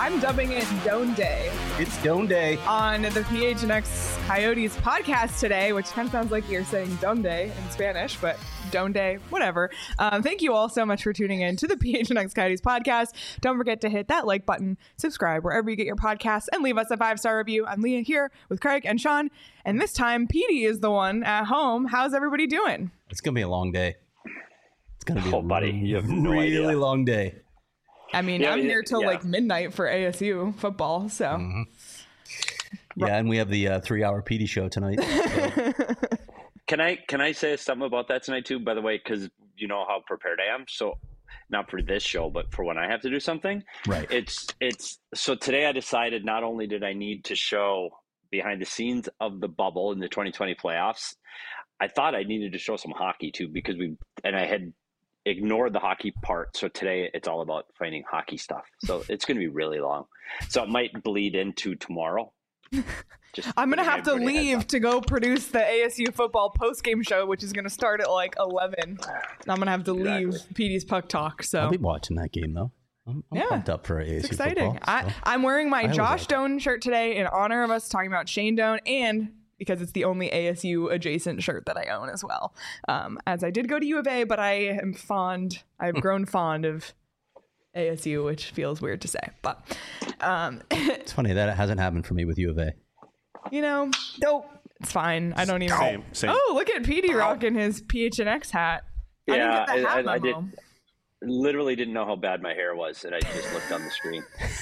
I'm dubbing it Doan Day. It's Doan Day. On the PHNX Coyotes podcast today, which kind of sounds like you're saying Donde in Spanish, but Doan Day, whatever. Thank you all so much for tuning in to the PHNX Coyotes podcast. Don't forget to hit that like button, subscribe wherever you get your podcasts, and leave us a 5-star review. I'm Leah here with Craig and Sean, and this time Petey is the one at home. How's everybody doing? It's going to be a long day. It's going to be buddy, you have no really idea. Long day. I mean, I'm here till like midnight for ASU football, so. Mm-hmm. Yeah, and we have the 3-hour PD show tonight. So. Can I say something about that tonight too, by the way, because you know how prepared I am. So not for this show, but for when I have to do something. Right. It's so today I decided not only did I need to show behind the scenes of the bubble in the 2020 playoffs, I thought I needed to show some hockey too, because I had ignored the hockey part. So today it's all about finding hockey stuff. So it's going to be really long. So it might bleed into tomorrow. I'm going to have to leave to go produce the ASU football post-game show, which is going to start at like 11. I'm going to have to leave PD's Puck Talk. So I'll be watching that game though. I'm pumped up for ASU it's exciting. football. I'm wearing my Josh Doan shirt today in honor of us talking about Shane Doan, and because it's the only ASU adjacent shirt that I own as well. As I did go to U of A, but I've grown fond of ASU, which feels weird to say, but it's funny that it hasn't happened for me with U of A. You know, nope, it's fine. I don't even. Same. Oh, look at Petey rocking his PHNX hat. Yeah, I didn't get the hat I did. memo. Literally didn't know how bad my hair was, and I just looked on the screen.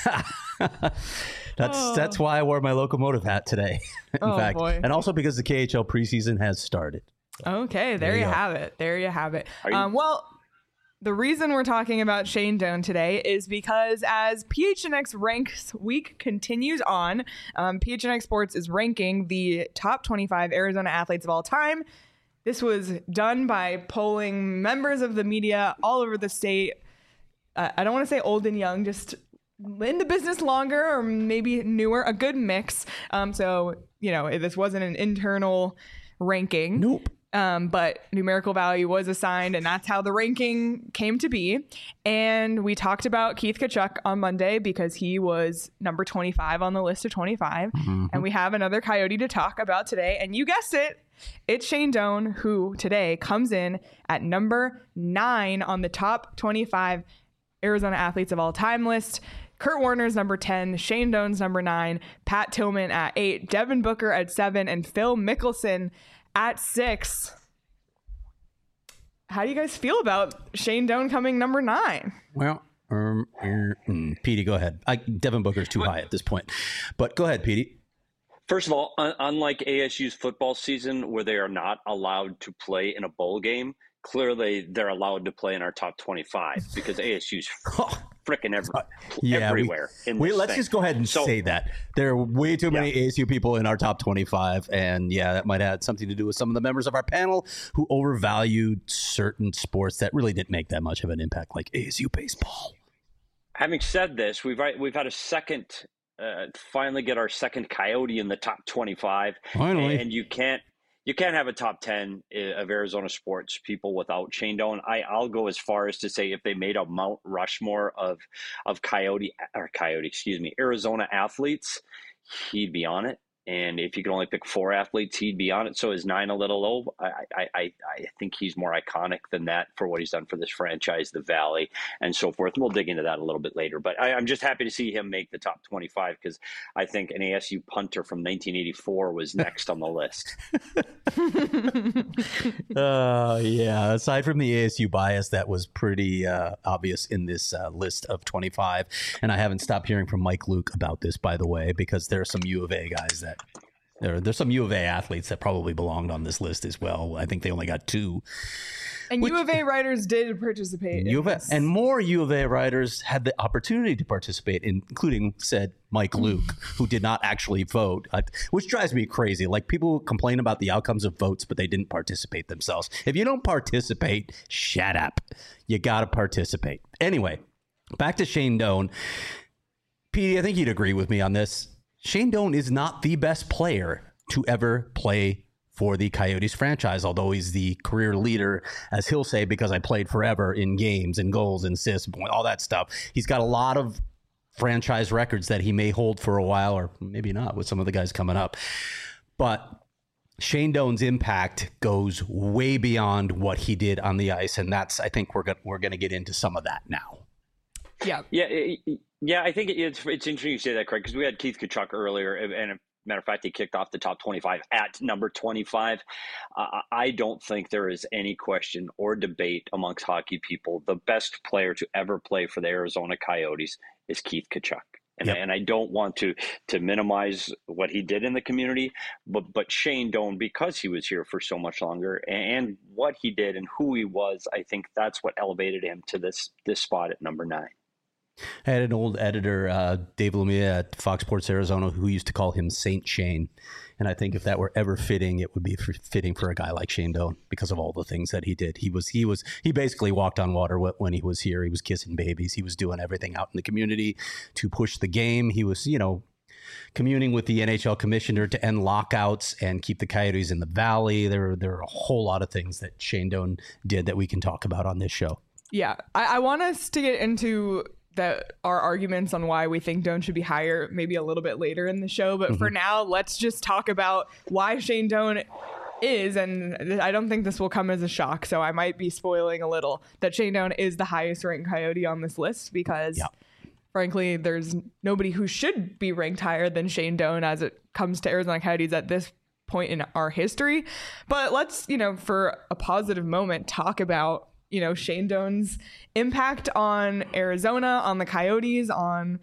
That's why I wore my locomotive hat today. In fact, boy. And also because the KHL preseason has started. Okay, there you have it. There you have it. Well, the reason we're talking about Shane Doan today is because as PHNX Ranks Week continues on, PHNX Sports is ranking the top 25 Arizona athletes of all time. This was done by polling members of the media all over the state. I don't want to say old and young, just in the business longer or maybe newer, a good mix. So, you know, this wasn't an internal ranking. Nope. But numerical value was assigned, and that's how the ranking came to be. And we talked about Keith Tkachuk on Monday because he was number 25 on the list of 25. Mm-hmm. And we have another Coyote to talk about today. And you guessed it, it's Shane Doan, who today comes in at number 9 on the top 25 Arizona athletes of all time list. Kurt Warner's number 10, Shane Doan's number 9, Pat Tillman at 8, Devin Booker at 7, and Phil Mickelson at 6. How do you guys feel about Shane Doan coming number 9? Well, Petey, go ahead. Devin Booker's too high at this point, but go ahead, Petey. First of all, unlike ASU's football season where they are not allowed to play in a bowl game, clearly they're allowed to play in our top 25 because ASU's freaking everywhere. Let's just go ahead and say that. There are way too many ASU people in our top 25. And that might have something to do with some of the members of our panel who overvalued certain sports that really didn't make that much of an impact, like ASU baseball. Having said this, we've had a second, finally get our second Coyote in the top 25. Finally. And you can't have a top 10 of Arizona sports people without Shane Doan. I'll go as far as to say if they made a Mount Rushmore of Arizona athletes, he'd be on it. And if you could only pick 4 athletes, he'd be on it. So is 9 a little low? I think he's more iconic than that for what he's done for this franchise, the Valley, and so forth. And we'll dig into that a little bit later. But I'm just happy to see him make the top 25 because I think an ASU punter from 1984 was next on the list. Aside from the ASU bias, that was pretty obvious in this list of 25. And I haven't stopped hearing from Mike Luke about this, by the way, because there are some U of A guys that there's some U of A athletes that probably belonged on this list as well. I think they only got 2. And U of A writers did participate. And more U of A writers had the opportunity to participate, including said Mike Luke, who did not actually vote, which drives me crazy. Like, people complain about the outcomes of votes, but they didn't participate themselves. If you don't participate, shut up. You got to participate. Anyway, back to Shane Doan. Petey, I think you'd agree with me on this. Shane Doan is not the best player to ever play for the Coyotes franchise, although he's the career leader, as he'll say, because I played forever in games and goals and assists, all that stuff. He's got a lot of franchise records that he may hold for a while, or maybe not with some of the guys coming up. But Shane Doan's impact goes way beyond what he did on the ice, and that's, I think we're going to get into some of that now. Yeah. I think it's interesting you say that, Craig, because we had Keith Tkachuk earlier, and matter of fact, he kicked off the top 25 at number 25. I don't think there is any question or debate amongst hockey people. The best player to ever play for the Arizona Coyotes is Keith Tkachuk. And I don't want to minimize what he did in the community, but Shane Doan, because he was here for so much longer, and what he did and who he was, I think that's what elevated him to this spot at number 9. I had an old editor, Dave Lumia at Fox Sports Arizona, who used to call him Saint Shane. And I think if that were ever fitting, it would be fitting for a guy like Shane Doan because of all the things that he did. He basically walked on water when he was here. He was kissing babies. He was doing everything out in the community to push the game. He was, communing with the NHL commissioner to end lockouts and keep the Coyotes in the Valley. There are a whole lot of things that Shane Doan did that we can talk about on this show. Yeah, I want us to get into our arguments on why we think Doan should be higher maybe a little bit later in the show. But for now, let's just talk about why Shane Doan is, and I don't think this will come as a shock, so I might be spoiling a little, that Shane Doan is the highest ranked Coyote on this list because frankly, there's nobody who should be ranked higher than Shane Doan as it comes to Arizona Coyotes at this point in our history. But let's, for a positive moment, talk about Shane Doan's impact on Arizona, on the Coyotes, on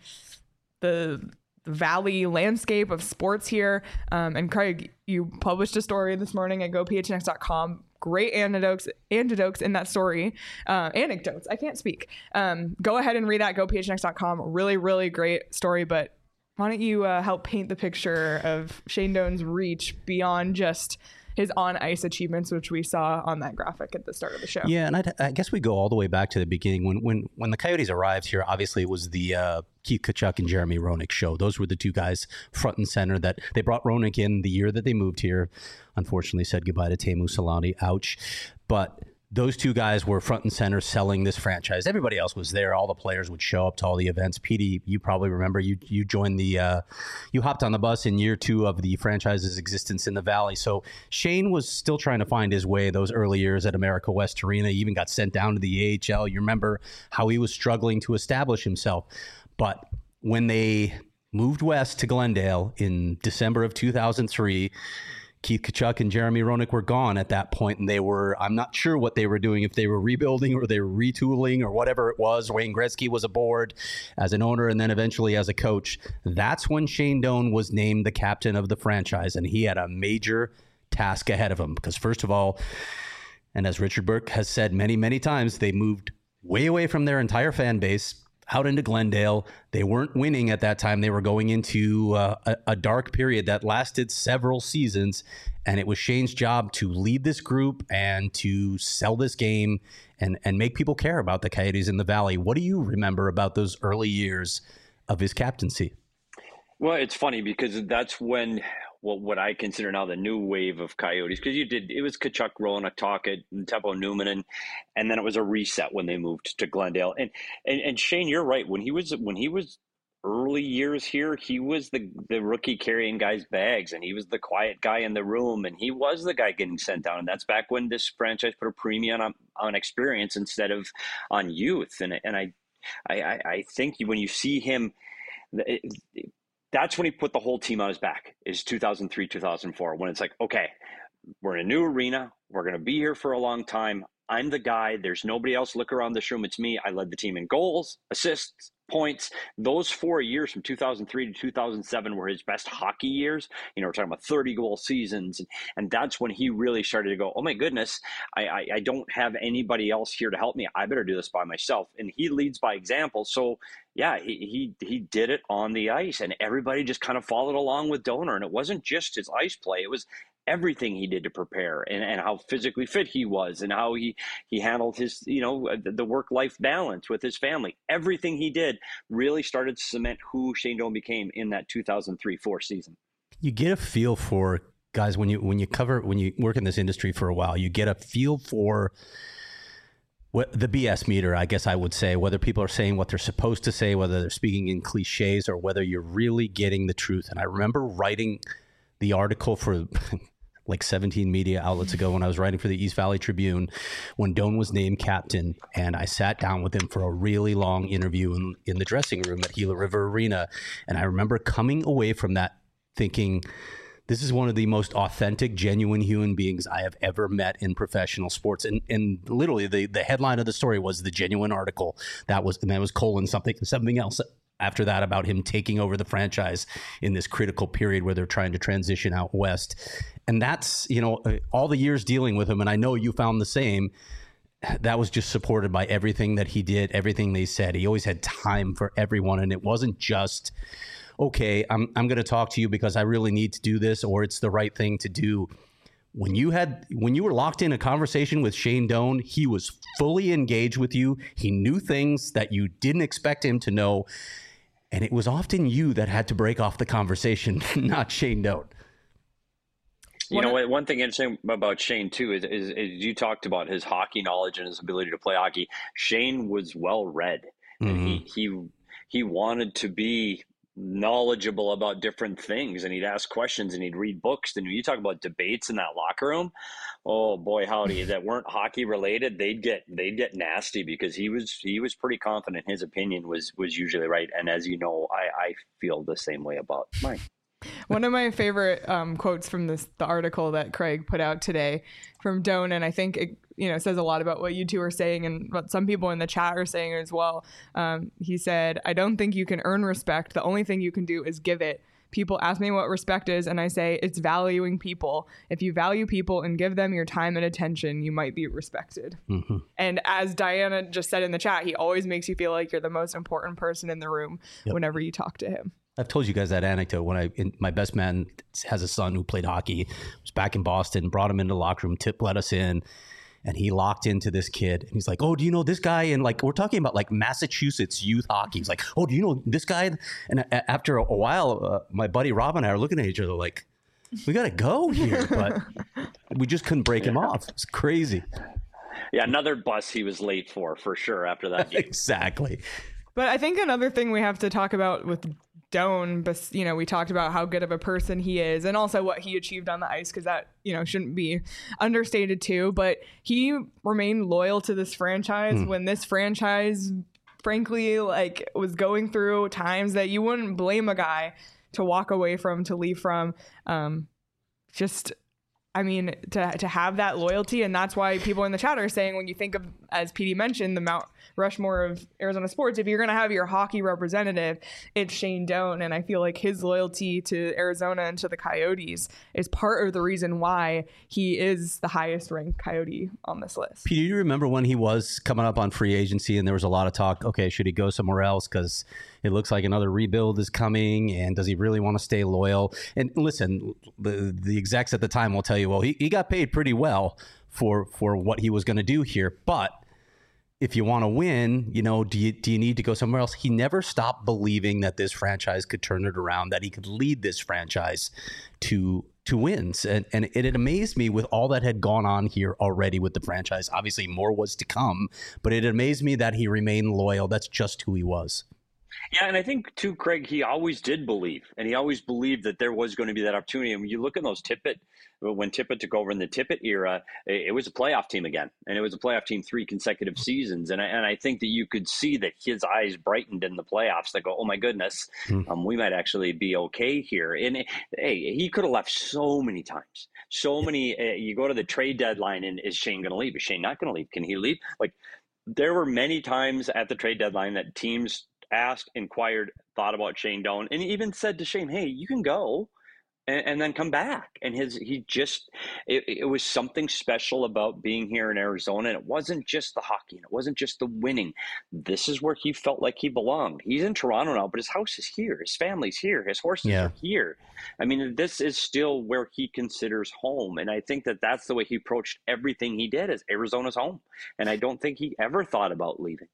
the Valley landscape of sports here. And Craig, you published a story this morning at gophnx.com. Great anecdotes in that story. Anecdotes. I can't speak. Go ahead and read that, gophnx.com. Really, really great story. But why don't you help paint the picture of Shane Doan's reach beyond just his on-ice achievements, which we saw on that graphic at the start of the show. Yeah, and I guess we go all the way back to the beginning. When the Coyotes arrived here, obviously it was the Keith Tkachuk and Jeremy Roenick show. Those were the two guys front and center. That they brought Roenick in the year that they moved here. Unfortunately, said goodbye to Teemu Selanne. Ouch. But those two guys were front and center selling this franchise. Everybody else was there. All the players would show up to all the events. Petey, you probably remember you joined you hopped on the bus in year 2 of the franchise's existence in the Valley. So Shane was still trying to find his way those early years at America West Arena. He even got sent down to the AHL. You remember how he was struggling to establish himself. But when they moved west to Glendale in December of 2003, Keith Tkachuk and Jeremy Roenick were gone at that point, and I'm not sure what they were doing, if they were rebuilding or they were retooling or whatever it was. Wayne Gretzky was aboard as an owner and then eventually as a coach. That's when Shane Doan was named the captain of the franchise, and he had a major task ahead of him because, first of all, and as Richard Burke has said many, many times, they moved way away from their entire fan base out into Glendale. They weren't winning at that time. They were going into a dark period that lasted several seasons, and it was Shane's job to lead this group and to sell this game and make people care about the Coyotes in the Valley. What do you remember about those early years of his captaincy? Well, it's funny because that's when what I consider now the new wave of Coyotes, because it was Tkachuk, Roenick, Tocchet, and Teppo Numminen, and then it was a reset when they moved to Glendale. And Shane, you're right. When he was early years here, he was the rookie carrying guys' bags, and he was the quiet guy in the room, and he was the guy getting sent down. And that's back when this franchise put a premium on experience instead of on youth. And I think when you see him, that's when he put the whole team on his back, is 2003, 2004, when it's like, okay, we're in a new arena. We're going to be here for a long time. I'm the guy. There's nobody else. Look around this room. It's me. I led the team in goals, assists, points. Those 4 years from 2003 to 2007 were his best hockey years. We're talking about 30-goal seasons. And that's when he really started to go, oh, my goodness, I don't have anybody else here to help me. I better do this by myself. And he leads by example. So, yeah, he did it on the ice, and everybody just kind of followed along with Doan. And it wasn't just his ice play. It was everything he did to prepare and how physically fit he was and how he handled his, the work-life balance with his family. Everything he did really started to cement who Shane Doan became in that 2003-04 season. You get a feel for guys when you work in this industry for a while, you get a feel for The BS meter, I guess I would say, whether people are saying what they're supposed to say, whether they're speaking in cliches, or whether you're really getting the truth. And I remember writing the article for like 17 media outlets ago when I was writing for the East Valley Tribune when Doan was named captain, and I sat down with him for a really long interview in the dressing room at Gila River Arena. And I remember coming away from that thinking, this is one of the most authentic, genuine human beings I have ever met in professional sports. And literally the headline of the story was the genuine article. That was colon something else after that about him taking over the franchise in this critical period where they're trying to transition out west. And that's, all the years dealing with him, and I know you found the same, that was just supported by everything that he did, everything they said. He always had time for everyone, and it wasn't just, okay, I'm going to talk to you because I really need to do this, or it's the right thing to do. When you were locked in a conversation with Shane Doan, he was fully engaged with you. He knew things that you didn't expect him to know. And it was often you that had to break off the conversation, not Shane Doan. You know what? One thing interesting about Shane too is you talked about his hockey knowledge and his ability to play hockey. Shane was well read, and he wanted to be knowledgeable about different things, and he'd ask questions and he'd read books. And when you talk about debates in that locker room, oh boy howdy, that weren't hockey related, they'd get nasty, because he was pretty confident his opinion was usually right. And as you know, I feel the same way about mine. One of my favorite quotes from the article that Craig put out today from Doan, and I think it says a lot about what you two are saying and what some people in the chat are saying as well. He said, "I don't think you can earn respect. The only thing you can do is give it. People ask me what respect is, and I say it's valuing people. If you value people and give them your time and attention, you might be respected." Mm-hmm. And as Diana just said in the chat, he always makes you feel like you're the most important person in the room whenever you talk to him. I've told you guys that anecdote when my best man has a son who played hockey, was back in Boston, brought him into the locker room, Tip let us in, and he locked into this kid. And he's like, "Oh, do you know this guy?" And like, we're talking about like Massachusetts youth hockey. He's like, "Oh, do you know this guy?" And after a while, my buddy Rob and I are looking at each other like, we got to go here. But we just couldn't break him off. It's crazy. Yeah, another bus he was late for sure after that game. Exactly. But I think another thing we have to talk about with Doan, we talked about how good of a person he is and also what he achieved on the ice, because that, shouldn't be understated too. But he remained loyal to this franchise when this franchise, frankly, was going through times that you wouldn't blame a guy to walk away from, to leave from. To have that loyalty. And that's why people in the chat are saying, when you think of, as PD mentioned, the Mount Rushmore of Arizona sports, if you're going to have your hockey representative, it's Shane Doan. And I feel like his loyalty to Arizona and to the Coyotes is part of the reason why he is the highest ranked Coyote on this list. Peter, do you remember when he was coming up on free agency and there was a lot of talk, okay, should he go somewhere else because it looks like another rebuild is coming, and does he really want to stay loyal? And listen, the execs at the time will tell you, well, he got paid pretty well for what he was going to do here, but if you want to win, do you need to go somewhere else? He never stopped believing that this franchise could turn it around, that he could lead this franchise to wins. And it amazed me with all that had gone on here already with the franchise. Obviously, more was to come, but it amazed me that he remained loyal. That's just who he was. Yeah, and I think, too, Craig, he always did believe, and he always believed that there was going to be that opportunity. And when you look at those when Tippett took over in the Tippett era, it was a playoff team again, and it was a playoff team 3 consecutive seasons. And I think that you could see that his eyes brightened in the playoffs. They go, oh, my goodness, we might actually be okay here. And, hey, he could have left so many times. So many, you go to the trade deadline, and is Shane going to leave? Is Shane not going to leave? Can he leave? There were many times at the trade deadline that teams asked, inquired, thought about Shane Doan, and he even said to Shane, hey, you can go and then come back. And it was something special about being here in Arizona. And it wasn't just the hockey, and it wasn't just the winning. This is where he felt like he belonged. He's in Toronto now, but his house is here. His family's here. His horses are here. I mean, this is still where he considers home. And I think that that's the way he approached everything he did, as Arizona's home. And I don't think he ever thought about leaving.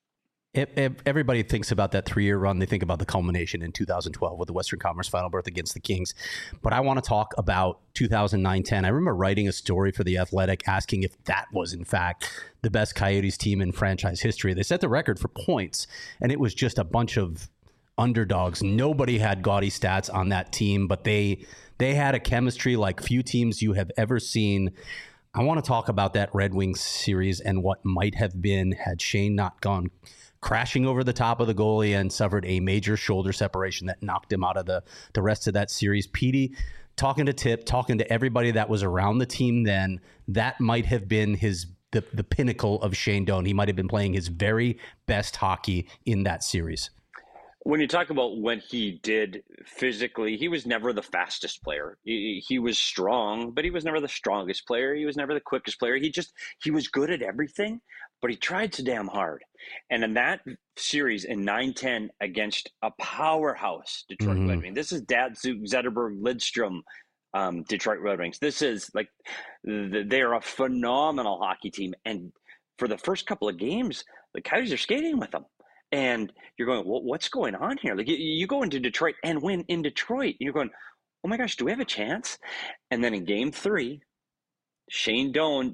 If everybody thinks about that 3-year run, they think about the culmination in 2012 with the Western Conference Final berth against the Kings. But I want to talk about 2009-10. I remember writing a story for The Athletic asking if that was, in fact, the best Coyotes team in franchise history. They set the record for points, and it was just a bunch of underdogs. Nobody had gaudy stats on that team, but they had a chemistry like few teams you have ever seen. I want to talk about that Red Wings series and what might have been had Shane not gone crashing over the top of the goalie and suffered a major shoulder separation that knocked him out of the rest of that series. Petey, talking to Tip, talking to everybody that was around the team then, that might have been the pinnacle of Shane Doan. He might have been playing his very best hockey in that series. When you talk about when he did physically, he was never the fastest player. He was strong, but he was never the strongest player. He was never the quickest player. He was good at everything, but he tried so damn hard. And in that series in 9-10 against a powerhouse Detroit Red Wings, this is Datsuk, Zetterberg, Lidstrom, Detroit Red Wings. This is like, they are a phenomenal hockey team. And for the first couple of games, the Coyotes are skating with them. And you're going, well, what's going on here? Like you go into Detroit and win in Detroit. And you're going, oh my gosh, do we have a chance? And then in game 3, Shane Doan,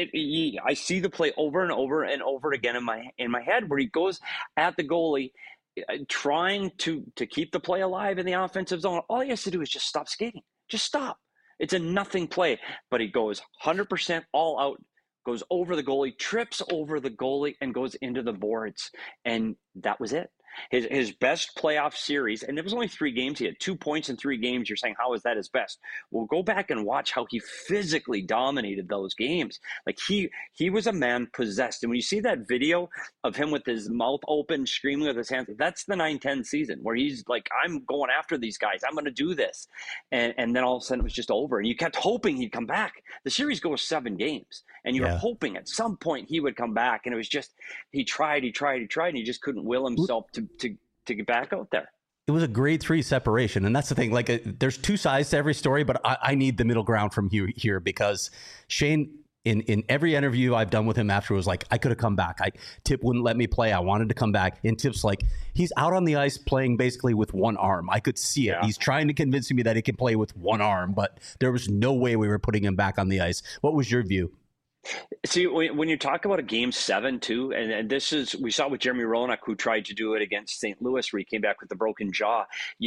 I see the play over and over and over again in my head where he goes at the goalie, trying to keep the play alive in the offensive zone. All he has to do is just stop skating. Just stop. It's a nothing play. But he goes 100% all out, goes over the goalie, trips over the goalie, and goes into the boards. And that was it. His best playoff series, and it was only 3 games. He had 2 points in 3 games. You're saying, how is that his best? Well, go back and watch how he physically dominated those games. Like he was a man possessed. And when you see that video of him with his mouth open, screaming with his hands, that's the 9-10 season where he's like, I'm going after these guys. I'm going to do this. And then all of a sudden it was just over. And you kept hoping he'd come back. The series goes 7 games. And you were hoping at some point he would come back. And it was just, he tried, and he just couldn't will himself to get back out there. It was a grade 3 separation. And that's the thing. Like, there's 2 sides to every story, but I need the middle ground from here because Shane, in every interview I've done with him after, was like, I could have come back. Tip wouldn't let me play. I wanted to come back. And Tip's like, he's out on the ice playing basically with one arm. I could see it. Yeah. He's trying to convince me that he can play with one arm, but there was no way we were putting him back on the ice. What was your view? See, when you talk about a game 7 too, and this is, we saw with Jeremy Roenick, who tried to do it against St. Louis, where he came back with the broken jaw.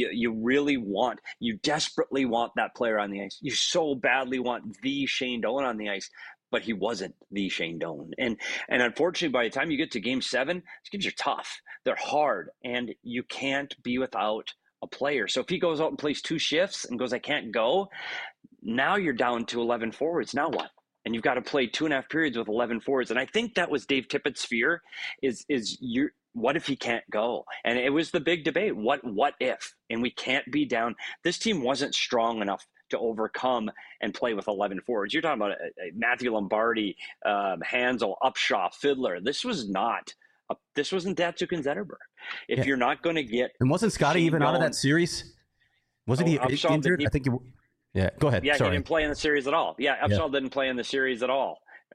You desperately want that player on the ice. You so badly want the Shane Doan on the ice, but he wasn't the Shane Doan. And unfortunately, by the time you get to game 7, these games are tough. They're hard, and you can't be without a player. So if he goes out and plays 2 shifts and goes, I can't go, now you're down to 11 forwards. Now what? And you've got to play 2.5 periods with 11 forwards. And I think that was Dave Tippett's fear what if he can't go? And it was the big debate. What if? And we can't be down. This team wasn't strong enough to overcome and play with 11 forwards. You're talking about Matthew Lombardi, Hansel, Upshaw, Fiddler. This wasn't Datsuk and Zetterberg. If you're not going to get... And wasn't Scotty even out of that series? Wasn't he injured? I think he... Yeah, go ahead. Yeah, Sorry. He didn't play in the series at all. Yeah, Upshaw didn't play in the series at all.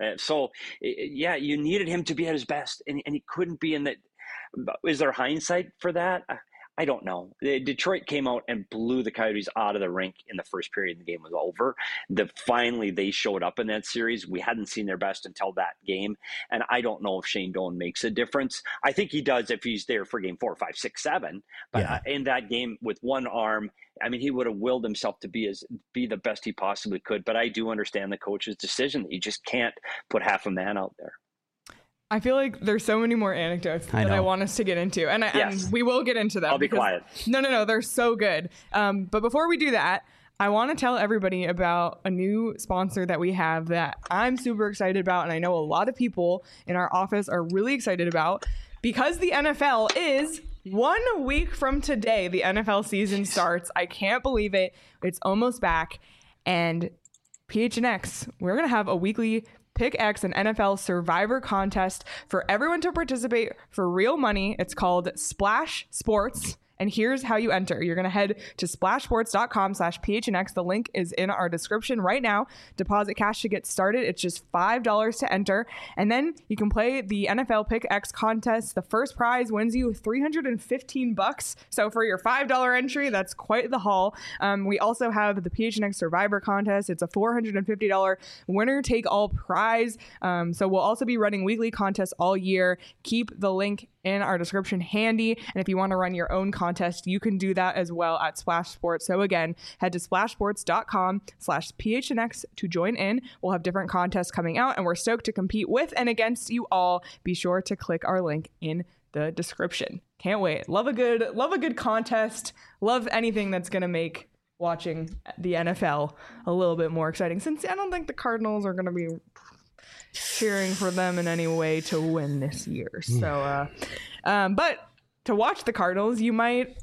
You needed him to be at his best, and he couldn't be in that. Is there hindsight for that? I don't know. Detroit came out and blew the Coyotes out of the rink in the first period. The game was over. Finally, they showed up in that series. We hadn't seen their best until that game. And I don't know if Shane Doan makes a difference. I think he does if he's there for game 4, 5, 6, 7. But in that game with one arm, I mean, he would have willed himself to be the best he possibly could. But I do understand the coach's decision that you just can't put half a man out there. I feel like there's so many more anecdotes that I want us to get into. And we will get into them. I'll be quiet. No, they're so good. But before we do that, I want to tell everybody about a new sponsor that we have that I'm super excited about. And I know a lot of people in our office are really excited about, because the NFL is 1 week from today. The NFL season starts. I can't believe it. It's almost back. And PHNX, we're going to have a weekly Pick X, an NFL Survivor contest for everyone to participate for real money. It's called Splash Sports, And here's how you enter. You're going to head to splashsports.com/PHNX. The link is in our description right now. Deposit cash to get started. It's just $5 to enter. And then you can play the NFL Pick X contest. The first prize wins you $315. So for your $5 entry, that's quite the haul. We also have the PHNX Survivor contest. It's a $450 winner take all prize. So we'll also be running weekly contests all year. Keep the link in our description handy. And if you want to run your own contest, you can do that as well at Splash Sports. So again, head to splashsports.com/PHNX to join in. We'll have different contests coming out, and we're stoked to compete with and against you all. Be sure to click our link in the description. Can't wait. Love a good contest. Love anything that's going to make watching the NFL a little bit more exciting, since I don't think the Cardinals are going to be cheering for them in any way to win this year. So, but to watch the Cardinals, you might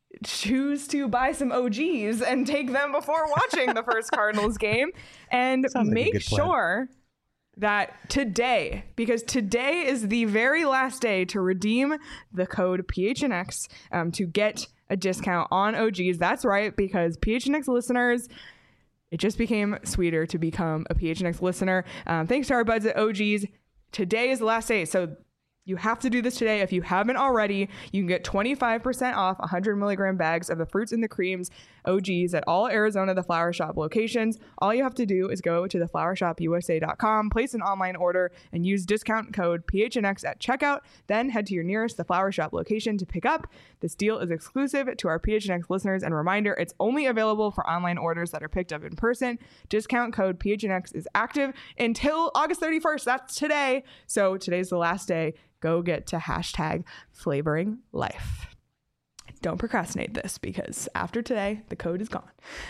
choose to buy some OGs and take them before watching the first Cardinals game, and make sure that today, because today is the very last day to redeem the code PHNX to get a discount on OGs. That's right, because PHNX listeners, it just became sweeter to become a PHNX listener. Thanks to our buds at OGs. Today is the last day, so you have to do this today. If you haven't already, you can get 25% off 100 milligram bags of the fruits and the creams OGs at all Arizona The Flower Shop locations. All you have to do is go to theflowershopusa.com, place an online order, and use discount code PHNX at checkout. Then head to your nearest The Flower Shop location to pick up. This deal is exclusive to our PHNX listeners, and reminder, it's only available for online orders that are picked up in person. Discount code PHNX is active until August 31st. That's today. So today's the last day. Go get to #flavoring life. Don't procrastinate this, because after today, the code is gone.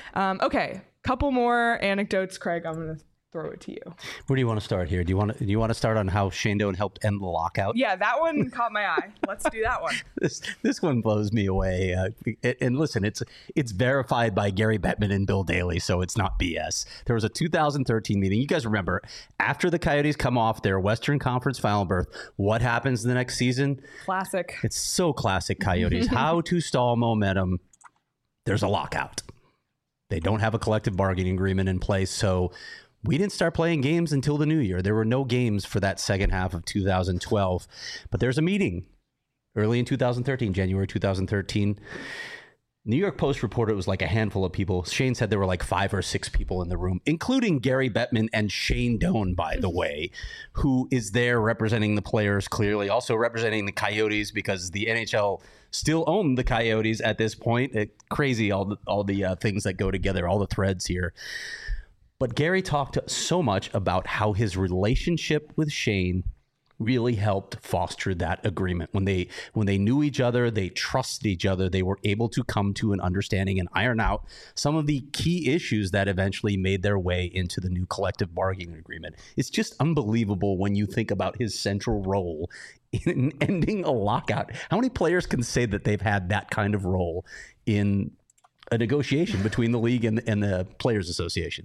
Okay, couple more anecdotes. Craig, I'm going to throw it to you. Where do you want to start here? Do you want to start on how Shane Doan helped end the lockout? Yeah, that one caught my eye. Let's do that one. This one blows me away. And listen, it's verified by Gary Bettman and Bill Daly, so it's not BS. There was a 2013 meeting. You guys remember, after the Coyotes come off their Western Conference final berth, what happens the next season? Classic. It's so classic Coyotes. How to stall momentum. There's a lockout. They don't have a collective bargaining agreement in place, so we didn't start playing games until the new year. There were no games for that second half of 2012. But there's a meeting early in 2013, January 2013. New York Post reported it was like a handful of people. Shane said there were like 5 or 6 people in the room, including Gary Bettman and Shane Doan, by the way, who is there representing the players, clearly also representing the Coyotes, because the NHL still own the Coyotes at this point. Crazy, all the things that go together, all the threads here. But Gary talked so much about how his relationship with Shane really helped foster that agreement. When they knew each other, they trusted each other, they were able to come to an understanding and iron out some of the key issues that eventually made their way into the new collective bargaining agreement. It's just unbelievable when you think about his central role in ending a lockout. How many players can say that they've had that kind of role in a negotiation between the league and the Players Association?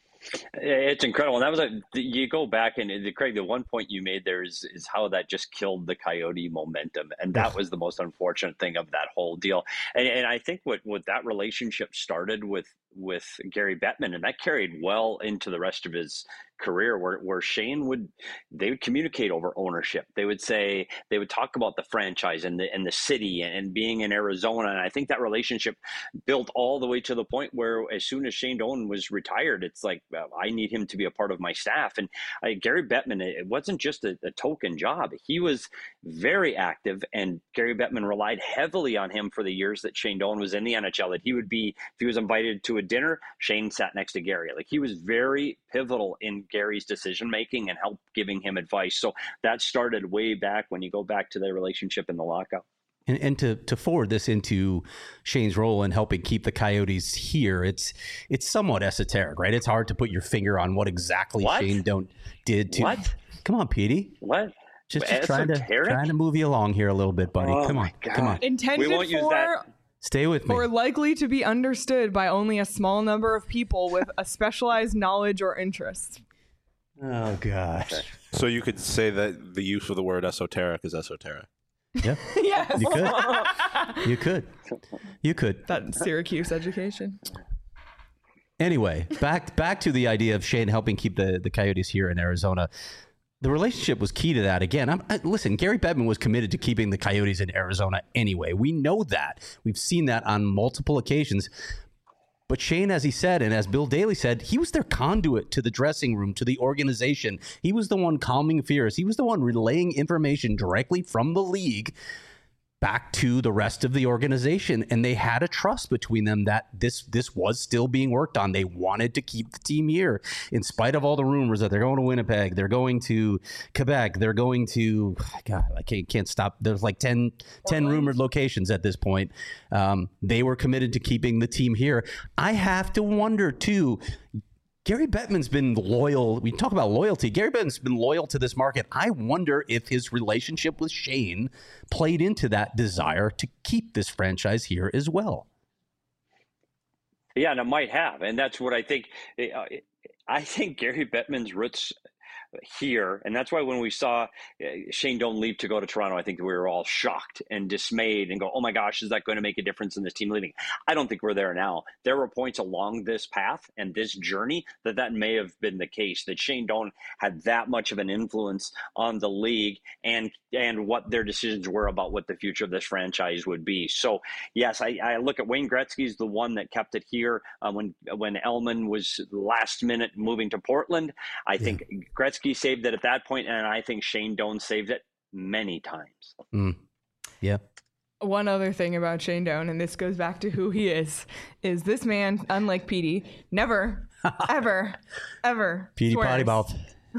It's incredible. And that was you go back and Craig, the one point you made there is how that just killed the Coyote momentum. And that was the most unfortunate thing of that whole deal. And I think what that relationship started with Gary Bettman, and that carried well into the rest of his career, where Shane would communicate over ownership. They would talk about the franchise and the city and being in Arizona. And I think that relationship built all the way to the point where as soon as Shane Doan was retired, it's like, I need him to be a part of my staff. And Gary Bettman, it wasn't just a token job. He was very active, and Gary Bettman relied heavily on him for the years that Shane Doan was in the NHL, that he would be, if he was invited to a dinner, Shane sat next to Gary. Like, he was very pivotal in Gary's decision making and helped giving him advice. So that started way back when you go back to their relationship in the lockout. And to forward this into Shane's role in helping keep the Coyotes here, it's somewhat esoteric, right? It's hard to put your finger on what exactly Shane Doan did to. What? Come on, Petey. What? Just trying to move you along here a little bit, buddy. Oh, come on. Intended we won't use that. Stay with me. Or likely to be understood by only a small number of people with a specialized knowledge or interest. Oh, gosh. So you could say that the use of the word esoteric is esoteric. Yeah. Yes. You could. That Syracuse education. Anyway, back to the idea of Shane helping keep the Coyotes here in Arizona. The relationship was key to that. Again, listen, Gary Bettman was committed to keeping the Coyotes in Arizona anyway. We know that. We've seen that on multiple occasions. But Shane, as he said, and as Bill Daly said, he was their conduit to the dressing room, to the organization. He was the one calming fears. He was the one relaying information directly from the league back to the rest of the organization. And they had a trust between them that this was still being worked on. They wanted to keep the team here in spite of all the rumors that they're going to Winnipeg, they're going to Quebec, they're going to, God, I can't stop. There's like 10 rumored locations at this point. They were committed to keeping the team here. I have to wonder too, Gary Bettman's been loyal. We talk about loyalty. Gary Bettman's been loyal to this market. I wonder if his relationship with Shane played into that desire to keep this franchise here as well. Yeah, and it might have. And that's what I think. I think Gary Bettman's roots here, and that's why when we saw Shane Doan leave to go to Toronto, I think we were all shocked and dismayed and go, oh my gosh, is that going to make a difference in this team leaving? I don't think we're there now. There were points along this path and this journey that may have been the case, that Shane Doan had that much of an influence on the league and what their decisions were about what the future of this franchise would be. So yes, I look at Wayne Gretzky's the one that kept it here when Elman was last minute moving to Portland. I think Gretzky saved it at that point, and I think Shane Doan saved it many times. Yeah. One other thing about Shane Doan, and this goes back to who he is this man, unlike Petey, never, ever, Petey swears. potty mouth.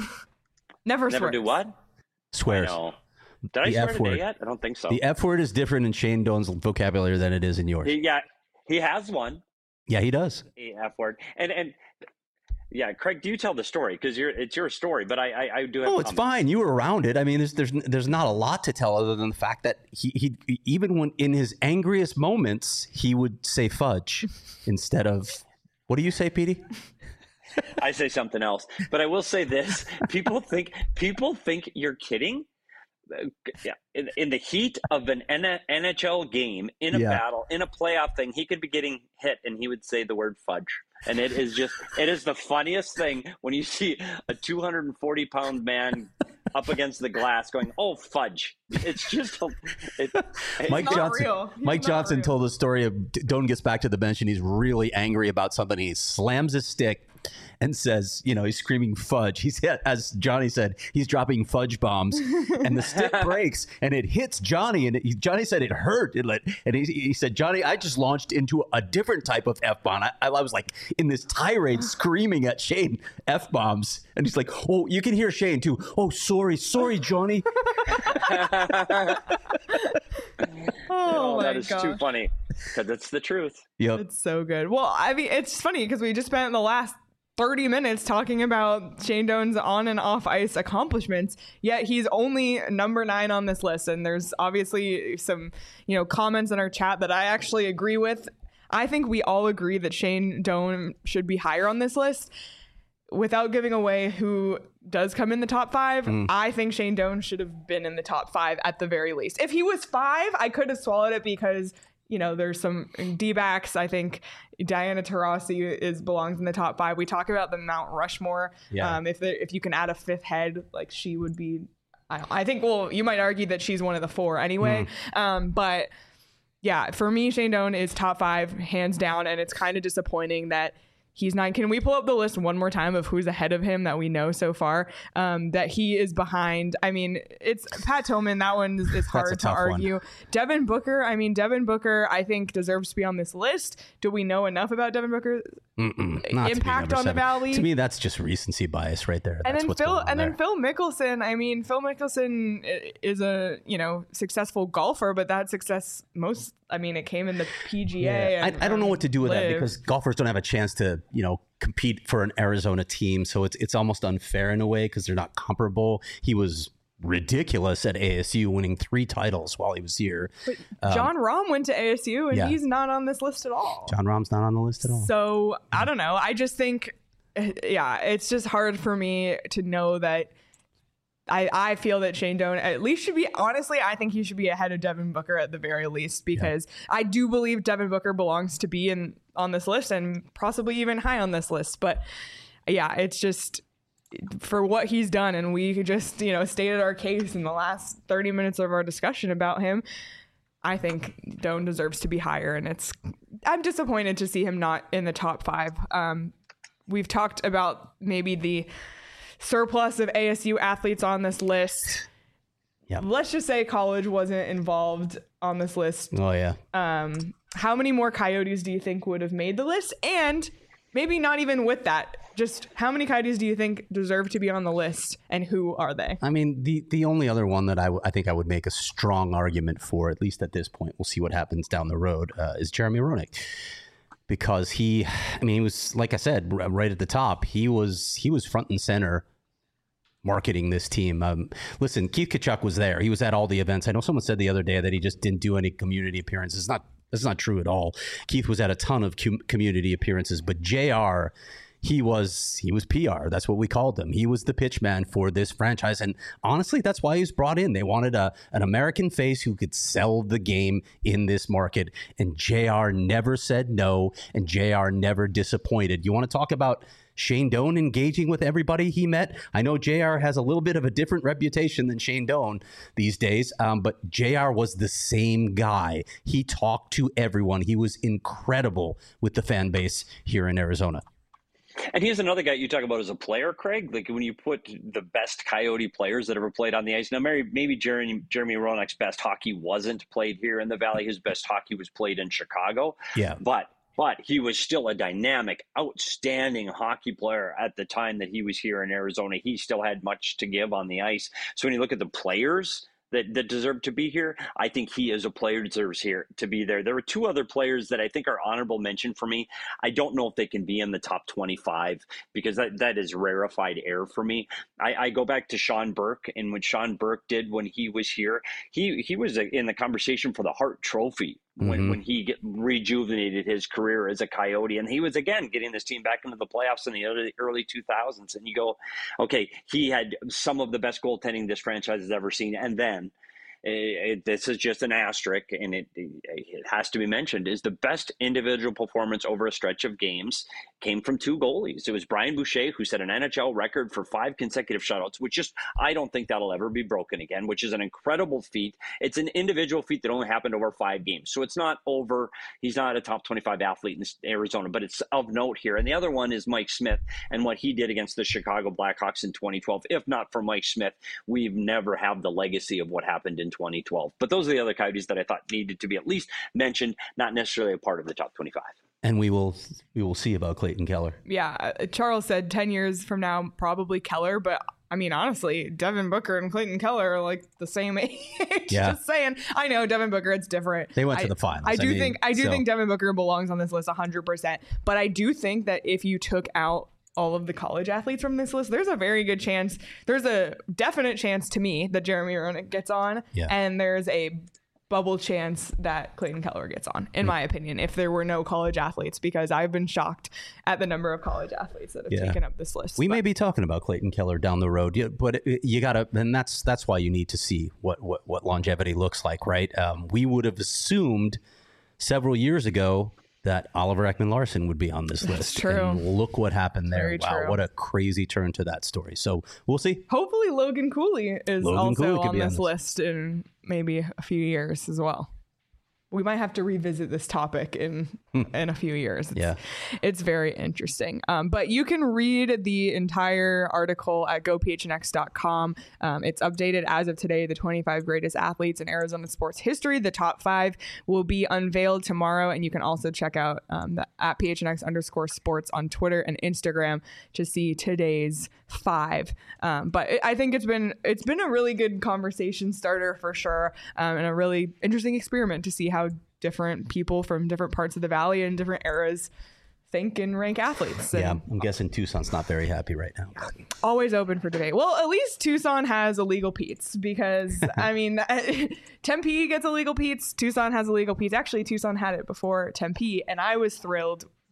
Never Never swears. do what? Swears. No. Did I The swear F today word. yet? I don't think so. The F word is different in Shane Doan's vocabulary than it is in yours. He has one. Yeah, he does. The F word. And yeah, Craig, do you tell the story? Because it's your story, but I do have Oh, it's fine. You were around it. I mean, there's not a lot to tell other than the fact that he even when in his angriest moments, he would say fudge instead of, what do you say, Petey? I say something else. But I will say this. People think you're kidding. Yeah, in the heat of an NHL game, in a battle, in a playoff thing, he could be getting hit and he would say the word fudge. And it is the funniest thing when you see a 240-pound man up against the glass going, oh, fudge. It's just Mike Johnson told the story of Doan gets back to the bench and he's really angry about something. He slams his stick and says, he's screaming fudge. He's, as Johnny said, he's dropping fudge bombs and the stick breaks and it hits Johnny. And Johnny said it hurt. And he said, Johnny, I just launched into a different type of F-bomb. I was like in this tirade screaming at Shane F-bombs. And he's like, oh, you can hear Shane too. Oh, sorry, Johnny. Oh, that is too funny because it's the truth. Yep. It's so good. Well, I mean, it's funny because we just spent the last 30 minutes talking about Shane Doan's on and off ice accomplishments, yet he's only number 9 on this list. And there's obviously some, comments in our chat that I actually agree with. I think we all agree that Shane Doan should be higher on this list. Without giving away who does come in the top 5, I think Shane Doan should have been in the top 5 at the very least. If he was 5, I could have swallowed it because there's some D-backs. I think Diana Taurasi belongs in the top 5. We talk about the Mount Rushmore. Yeah. If you can add a 5th head, like she would be. I think. Well, you might argue that she's one of the 4 anyway. But yeah, for me, Shane Doan is top 5 hands down, and it's kind of disappointing that he's 9. Can we pull up the list one more time of who's ahead of him that we know so far? That he is behind. I mean, it's Pat Tillman. That one is hard to argue. Devin Booker. I think deserves to be on this list. Do we know enough about Devin Booker? Impact on the Valley? To me, that's just recency bias right there. Then Phil Mickelson. I mean, Phil Mickelson is a successful golfer, but that success it came in the PGA. Yeah. I don't know what to do with that because golfers don't have a chance to, compete for an Arizona team. So it's almost unfair in a way because they're not comparable. He was ridiculous at ASU, winning 3 titles while he was here. But John Rahm went to ASU and he's not on this list at all. John Rahm's not on the list at all. So I don't know. I just think, it's just hard for me to know that I feel that Shane Doan at least should be, honestly, I think he should be ahead of Devin Booker at the very least, because I do believe Devin Booker belongs to be on this list and possibly even high on this list. But yeah, it's just for what he's done. And we just, stated our case in the last 30 minutes of our discussion about him. I think Doan deserves to be higher. And I'm disappointed to see him not in the top 5. We've talked about maybe the surplus of ASU athletes on this list. Yeah. Let's just say college wasn't involved on this list. Oh, yeah. How many more Coyotes do you think would have made the list? And maybe not even with that, just how many Coyotes do you think deserve to be on the list, and who are they? I mean, the only other one that I think I would make a strong argument for, at least at this point, we'll see what happens down the road, is Jeremy Roenick. Because he was, like I said, right at the top, he was front and center marketing this team. Listen, Keith Tkachuk was there. He was at all the events. I know someone said the other day that he just didn't do any community appearances. That's not true at all. Keith was at a ton of community appearances, but JR, he was PR. That's what we called him. He was the pitch man for this franchise. And honestly, that's why he was brought in. They wanted an American face who could sell the game in this market. And JR never said no, and JR never disappointed. You want to talk about Shane Doan engaging with everybody he met? I know JR has a little bit of a different reputation than Shane Doan these days, but JR was the same guy. He talked to everyone. He was incredible with the fan base here in Arizona. And he's another guy you talk about as a player, Craig. Like when you put the best Coyote players that ever played on the ice. Now, maybe Jeremy Roenick's best hockey wasn't played here in the Valley. His best hockey was played in Chicago. Yeah. But he was still a dynamic, outstanding hockey player at the time that he was here in Arizona. He still had much to give on the ice. So when you look at the players that deserve to be here, I think he as a player deserves here to be there. There were 2 other players that I think are honorable mention for me. I don't know if they can be in the top 25 because that is rarefied air for me. I go back to Sean Burke, and what Sean Burke did when he was here, he was in the conversation for the Hart Trophy when he rejuvenated his career as a Coyote. And he was, again, getting this team back into the playoffs in the early 2000s. And you go, okay, he had some of the best goaltending this franchise has ever seen. And then this is just an asterisk, and it has to be mentioned, is the best individual performance over a stretch of games came from 2 goalies. It was Brian Boucher, who set an NHL record for 5 consecutive shutouts, which I don't think that'll ever be broken again, which is an incredible feat. It's an individual feat that only happened over 5 games. So it's not over. He's not a top 25 athlete in Arizona, but it's of note here. And the other one is Mike Smith and what he did against the Chicago Blackhawks in 2012. If not for Mike Smith, we've never had the legacy of what happened in 2012. But those are the other Coyotes that I thought needed to be at least mentioned, not necessarily a part of the top 25. And we will see about Clayton Keller. Yeah, Charles said 10 years from now, probably Keller, but I mean, honestly, Devin Booker and Clayton Keller are like the same age. Yeah. Just saying. I know Devin Booker, it's different. They went to the finals. I do think Devin Booker belongs on this list 100%. But I do think that if you took out all of the college athletes from this list, there's a very good chance, there's a definite chance to me that Jeremy Roenick gets on. Yeah. And there's a bubble chance that Clayton Keller gets on, in my opinion, if there were no college athletes, because I've been shocked at the number of college athletes that have taken up this list. We may be talking about Clayton Keller down the road, but you gotta, and that's why you need to see what longevity looks like, right? We would have assumed several years ago that Oliver Ekman-Larsson would be on this list. True. And look what happened there. Very wow, true. What a crazy turn to that story. So we'll see. Hopefully Logan Cooley is also on this list in maybe a few years as well. We might have to revisit this topic in a few years. It's very interesting. But you can read the entire article at gophnx.com. It's updated as of today, the 25 greatest athletes in Arizona sports history. The top 5 will be unveiled tomorrow. And you can also check out the at @PHNX_sports on Twitter and Instagram to see today's 5. But I think it's been a really good conversation starter for sure, and a really interesting experiment to see how different people from different parts of the Valley and different eras think and rank athletes. And I'm guessing Tucson's not very happy right now. Always open for debate. Well, at least Tucson has illegal Pete's, because I mean, Tempe gets illegal Pete's. Tucson has illegal Pete's. Actually, Tucson had it before Tempe, and I was thrilled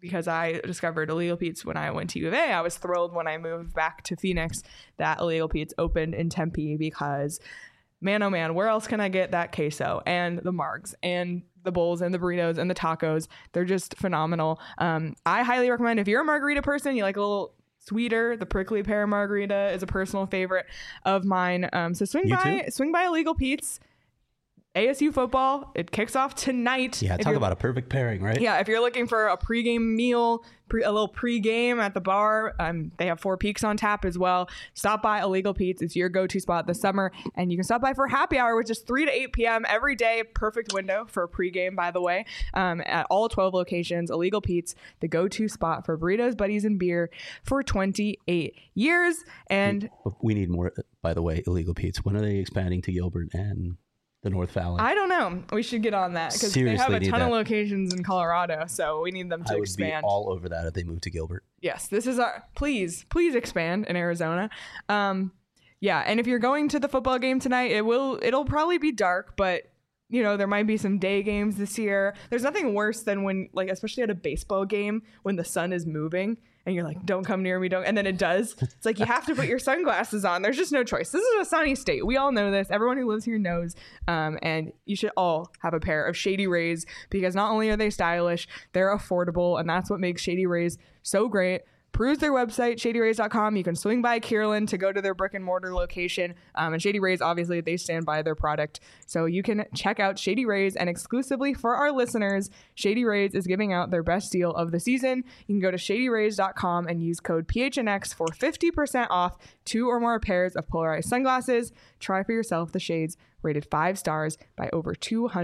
because I discovered Illegal Pete's when I went to U of A. I was thrilled when I moved back to Phoenix that Illegal Pete's opened in Tempe because, man, oh man, where else can I get that queso and the margs and the bowls and the burritos and the tacos? They're just phenomenal. I highly recommend, if you're a margarita person, you like a little sweeter, the prickly pear margarita is a personal favorite of mine. So swing by Illegal Pete's. ASU football, it kicks off tonight. Yeah, talk about a perfect pairing, right? Yeah, if you're looking for a pregame meal, a little pregame at the bar, they have Four Peaks on tap as well. Stop by Illegal Pete's. It's your go-to spot this summer. And you can stop by for happy hour, which is 3 to 8 p.m. every day. Perfect window for a pregame, by the way. At all 12 locations, Illegal Pete's, the go-to spot for burritos, buddies, and beer for 28 years. And we need more, by the way, Illegal Pete's. When are they expanding to Gilbert and the North Valley? I don't know. We should get on that because they have a ton of locations in Colorado, so we need them to expand. I would be all over that if they move to Gilbert. Yes, this is our please expand in Arizona. Yeah, and if you're going to the football game tonight, it'll probably be dark, but there might be some day games this year. There's nothing worse than when, like, especially at a baseball game, when the sun is moving and you're like, don't come near me, don't. And then it does. It's like you have to put your sunglasses on. There's just no choice. This is a sunny state. We all know this. Everyone who lives here knows. And you should all have a pair of Shady Rays because not only are they stylish, they're affordable. And that's what makes Shady Rays so great. Peruse their website, shadyrays.com. You can swing by Kierland to go to their brick and mortar location. And Shady Rays, obviously, they stand by their product. So you can check out Shady Rays. And exclusively for our listeners, Shady Rays is giving out their best deal of the season. You can go to shadyrays.com and use code PHNX for 50% off 2 or more pairs of polarized sunglasses. Try for yourself the shades rated 5 stars by over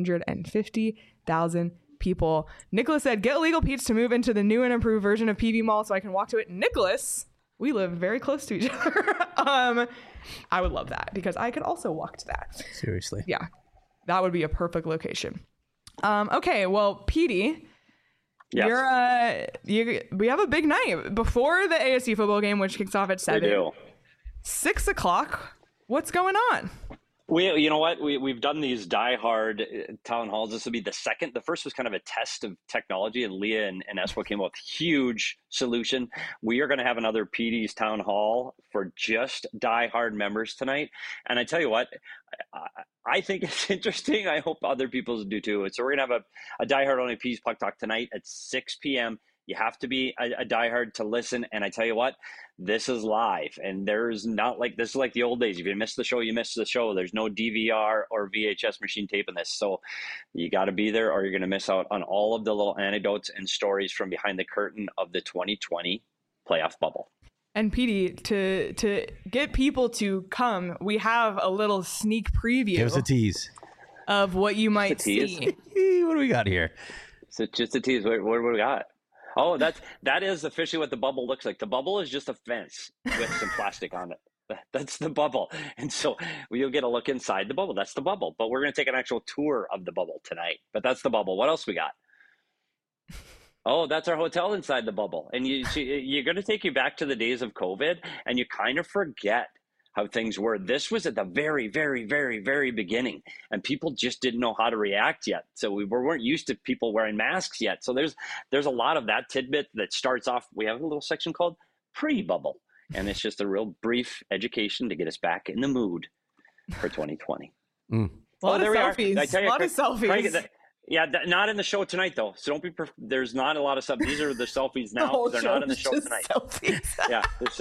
250,000 people. Nicholas said, get Illegal Pete's to move into the new and improved version of PV Mall so I can walk to it. Nicholas, we live very close to each other. I would love that because I could also walk to that. Seriously. Yeah, that would be a perfect location. Okay, well, Petey, yes. We have a big night before the ASU football game, which kicks off at 7. We do. 6 o'clock. What's going on? You know what? We've done these diehard town halls. This will be the second. The first was kind of a test of technology, and Leah and Espo came up with a huge solution. We are going to have another PD's town hall for just diehard members tonight. And I tell you what, I think it's interesting. I hope other people do too. So we're going to have a diehard only PD's Puck Talk tonight at 6 p.m. You have to be a diehard to listen. And I tell you what, this is live. And there's not like, this is like the old days. If you miss the show, you miss the show. There's no DVR or VHS machine taping this. So you got to be there or you're going to miss out on all of the little anecdotes and stories from behind the curtain of the 2020 playoff bubble. And Petey, to get people to come, we have a little sneak preview. Give us a tease of what you might see. What do we got here? So just a tease. What do we got? Oh, that is officially what the bubble looks like. The bubble is just a fence with some plastic on it. That's the bubble. And so you'll get a look inside the bubble. That's the bubble. But we're going to take an actual tour of the bubble tonight. But that's the bubble. What else we got? Oh, that's our hotel inside the bubble. And you're going to take you back to the days of COVID, and you kind of forget how things were. This was at the very, very, very, very beginning, and people just didn't know how to react yet. So we weren't used to people wearing masks yet. So there's a lot of that tidbit that starts off. We have a little section called pre-bubble, and it's just a real brief education to get us back in the mood for 2020 A lot of selfies. A lot of selfies. Yeah, not in the show tonight though. So don't be. There's not a lot of stuff. These are the selfies now. They're not in the show tonight. Selfies. Yeah.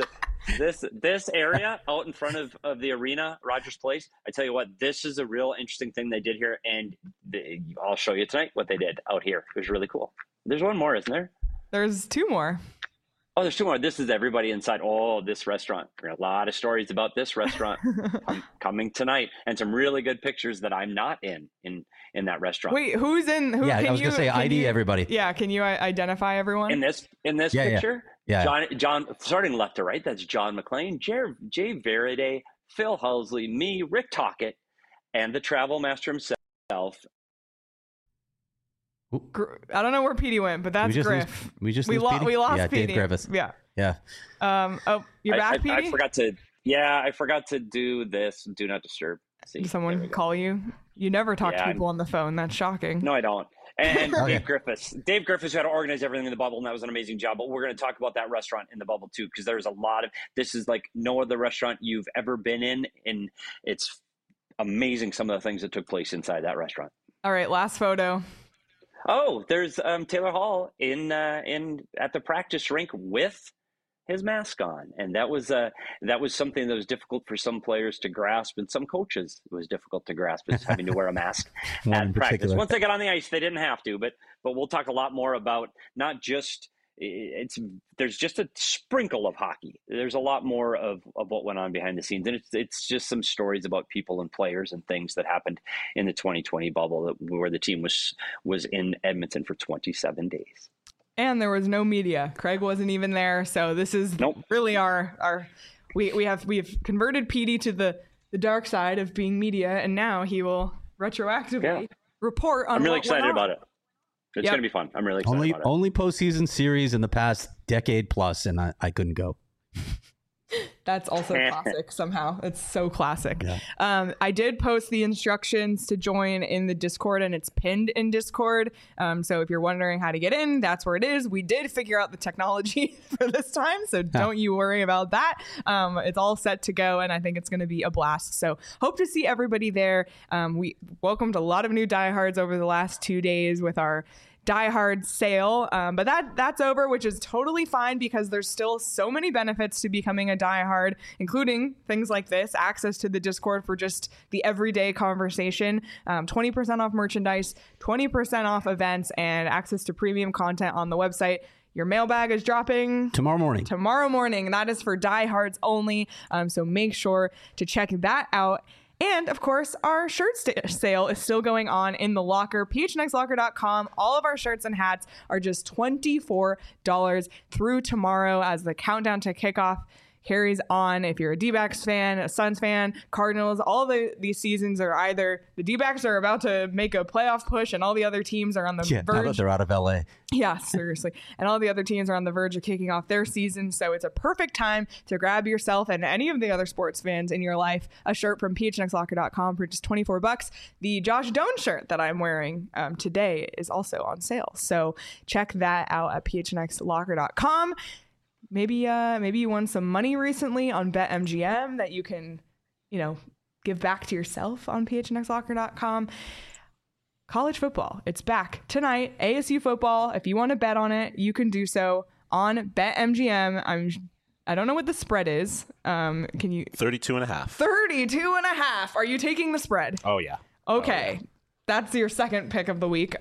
This area out in front of the arena, Rogers Place, I tell you what, this is a real interesting thing they did here, and I'll show you tonight what they did out here. It was really cool. There's one more, isn't there? There's 2 more. Oh, there's 2 more. This is everybody inside. Oh, this restaurant. There are a lot of stories about this restaurant coming tonight, and some really good pictures that I'm not in that restaurant. Wait, who's in? Yeah, I was going to say ID everybody. Yeah, can you identify everyone? In this picture? Yeah. John, starting left to right, that's John McLean, Jay Veride, Phil Housley, me, Rick Tocchet, and the travel master himself. I don't know where Petey went, but that's Griff. We lost Petey. Dave Griffiths. Yeah. Oh, you're back, Petey? I forgot to do this. Do not disturb. See, did someone call you? You never talk to people on the phone. That's shocking. No, I don't. And Dave Griffiths, who had to organize everything in the bubble, and that was an amazing job. But we're going to talk about that restaurant in the bubble too, because there's a lot of, this is like no other restaurant you've ever been in, and it's amazing some of the things that took place inside that restaurant. All right, last photo. Oh, there's Taylor Hall in at the practice rink with his mask on, and that was something that was difficult for some players to grasp, and some coaches it was difficult to grasp, is having to wear a mask at practice. Once they got on the ice, they didn't have to, but we'll talk a lot more about not just there's just a sprinkle of hockey. There's a lot more of what went on behind the scenes, and it's just some stories about people and players and things that happened in the 2020 bubble where the team was in Edmonton for 27 days. And there was no media. Craig wasn't even there. So this is really we've converted Petey to the dark side of being media, and now he will retroactively report on. I'm really excited about it. It's going to be fun. I'm really excited about it. Only postseason series in the past decade plus, and I couldn't go. That's also classic somehow. It's so classic. Yeah. I did post the instructions to join in the Discord, and it's pinned in Discord. So if you're wondering how to get in, that's where it is. We did figure out the technology for this time, so don't you worry about that. It's all set to go, and I think it's going to be a blast. So hope to see everybody there. We welcomed a lot of new diehards over the last 2 days with our Die Hard sale, but that's over, which is totally fine because there's still so many benefits to becoming a Die Hard, including things like this, access to the Discord for just the everyday conversation, 20% off merchandise, 20% off events, and access to premium content on the website. Your mailbag is dropping tomorrow morning. That is for diehards only. So make sure to check that out. And of course, our shirt sale is still going on in the locker, phnxlocker.com. All of our shirts and hats are just $24 through tomorrow as the countdown to kickoff carries on. If you're a D-backs fan, a Suns fan, Cardinals, all these seasons are either the D-backs are about to make a playoff push and all the other teams are on the verge. Now that they're out of LA. Yeah, seriously. And all the other teams are on the verge of kicking off their season. So it's a perfect time to grab yourself and any of the other sports fans in your life a shirt from phnxlocker.com for just $24. The Josh Doan shirt that I'm wearing today is also on sale. So check that out at phnxlocker.com. Maybe you won some money recently on BetMGM that you can, give back to yourself on phnxlocker.com. College football, it's back tonight. ASU football. If you want to bet on it, you can do so on BetMGM. I don't know what the spread is. Can you? 32.5. 32.5. Are you taking the spread? Oh yeah. Okay. Oh, yeah. That's your second pick of the week.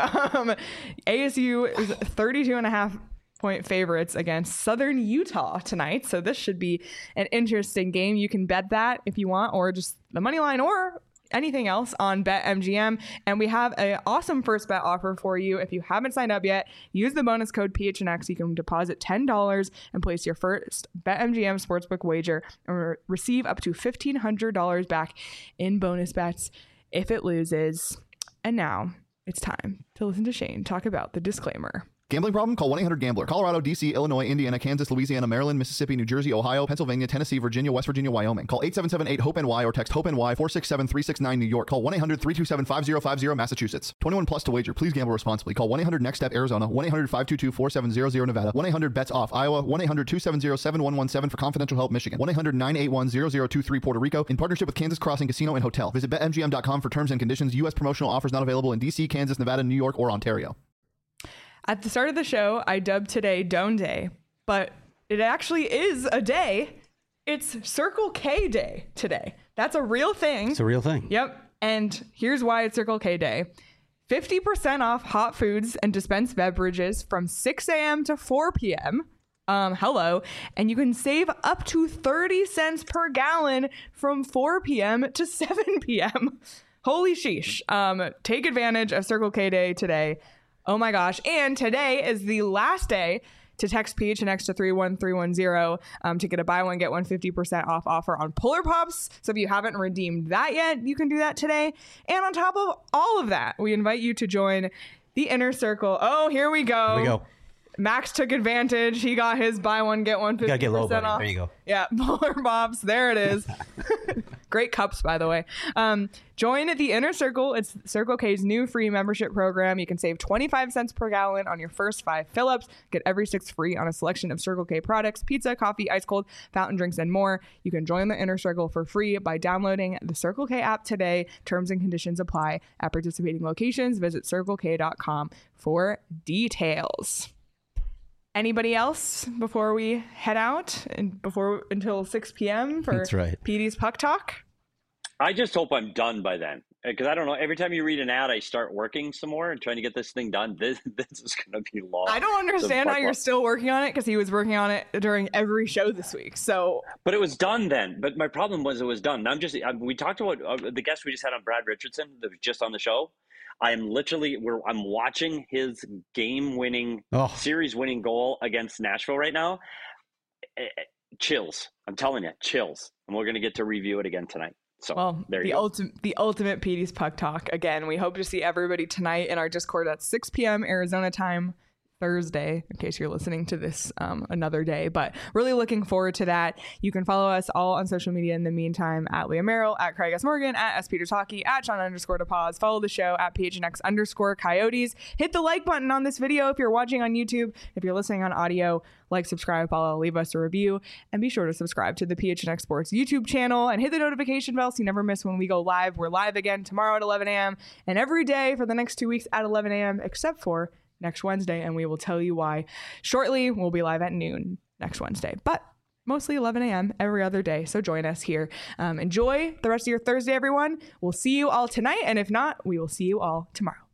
ASU is 32.5 point favorites against Southern Utah tonight. So this should be an interesting game. You can bet that if you want, or just the money line or anything else on BetMGM. And we have an awesome first bet offer for you. If you haven't signed up yet, use the bonus code PHNX. You can deposit $10 and place your first BetMGM sportsbook wager and receive up to $1,500 back in bonus bets if it loses. And now it's time to listen to Shane talk about the disclaimer. Gambling problem? Call 1-800-GAMBLER. Colorado, D.C., Illinois, Indiana, Kansas, Louisiana, Maryland, Mississippi, New Jersey, Ohio, Pennsylvania, Tennessee, Virginia, West Virginia, Wyoming. Call 877-8-HOPE-NY or text HOPE-NY 467-369 New York. Call 1-800-327-5050 Massachusetts. 21 plus to wager. Please gamble responsibly. Call 1-800-NEXT-STEP Arizona. 1-800-522-4700 Nevada. 1-800-BETS-OFF Iowa. 1-800-270-7117 for confidential help Michigan. 1-800-981-0023 Puerto Rico. In partnership with Kansas Crossing Casino and Hotel. Visit BetMGM.com for terms and conditions. U.S. promotional offers not available in D.C., Kansas, Nevada, New York, or Ontario. At the start of the show, I dubbed today Doan Day, but it actually is a day. It's Circle K Day today. That's a real thing. It's a real thing. Yep. And here's why it's Circle K Day. 50% off hot foods and dispensed beverages from 6 a.m. to 4 p.m. Hello. And you can save up to 30 cents per gallon from 4 p.m. to 7 p.m. Holy sheesh. Take advantage of Circle K Day today. Oh my gosh. And today is the last day to text PHNX to 31310 to get a buy one, get one 50% off offer on Polar Pops. So if you haven't redeemed that yet, you can do that today. And on top of all of that, we invite you to join the Inner Circle. Oh, here we go. Max took advantage. He got his buy one, get one 50% You gotta get low, buddy. off. There you go. Yeah, Polar Pops. There it is. Great cups, by the way. Join the Inner Circle. It's Circle K's new free membership program. You can save 25 cents per gallon on your first 5 fill-ups. Get every 6 free on a selection of Circle K products, pizza, coffee, ice cold, fountain drinks, and more. You can join the Inner Circle for free by downloading the Circle K app today. Terms and conditions apply at participating locations. Visit CircleK.com for details. Anybody else before we head out and until 6 p.m. for That's right. PD's Puck Talk? I just hope I'm done by then, because I don't know. Every time you read an ad, I start working some more and trying to get this thing done. This is going to be long. I don't understand how you're still working on it, because he was working on it during every show this week. So, but it was done then. But my problem was it was done. We talked about the guest we just had on, Brad Richardson, that was just on the show. I'm watching his game-winning, series-winning goal against Nashville right now. Chills. I'm telling you, chills. And we're going to get to review it again tonight. So, well, there you go. The ultimate PD's Puck Talk. Again, we hope to see everybody tonight in our Discord at 6 p.m. Arizona time, Thursday, in case you're listening to this another day. But really looking forward to that. You can follow us all on social media in the meantime, at Leah Merrill, at Craig S. Morgan, at S. Peters Hockey, at Sean_DePause. Follow the show at PHNX_Coyotes. Hit the like button on this video if you're watching on YouTube. If you're listening on audio, like, subscribe, follow, leave us a review, and be sure to subscribe to the PHNX Sports YouTube channel and hit the notification bell so you never miss when we go live. We're live again tomorrow at 11 a.m. and every day for the next 2 weeks at 11 a.m. except for next Wednesday, and we will tell you why shortly. We'll be live at noon next Wednesday, but mostly 11 a.m. every other day. So join us here. Enjoy the rest of your Thursday, everyone. We'll see you all tonight, and if not, we will see you all tomorrow.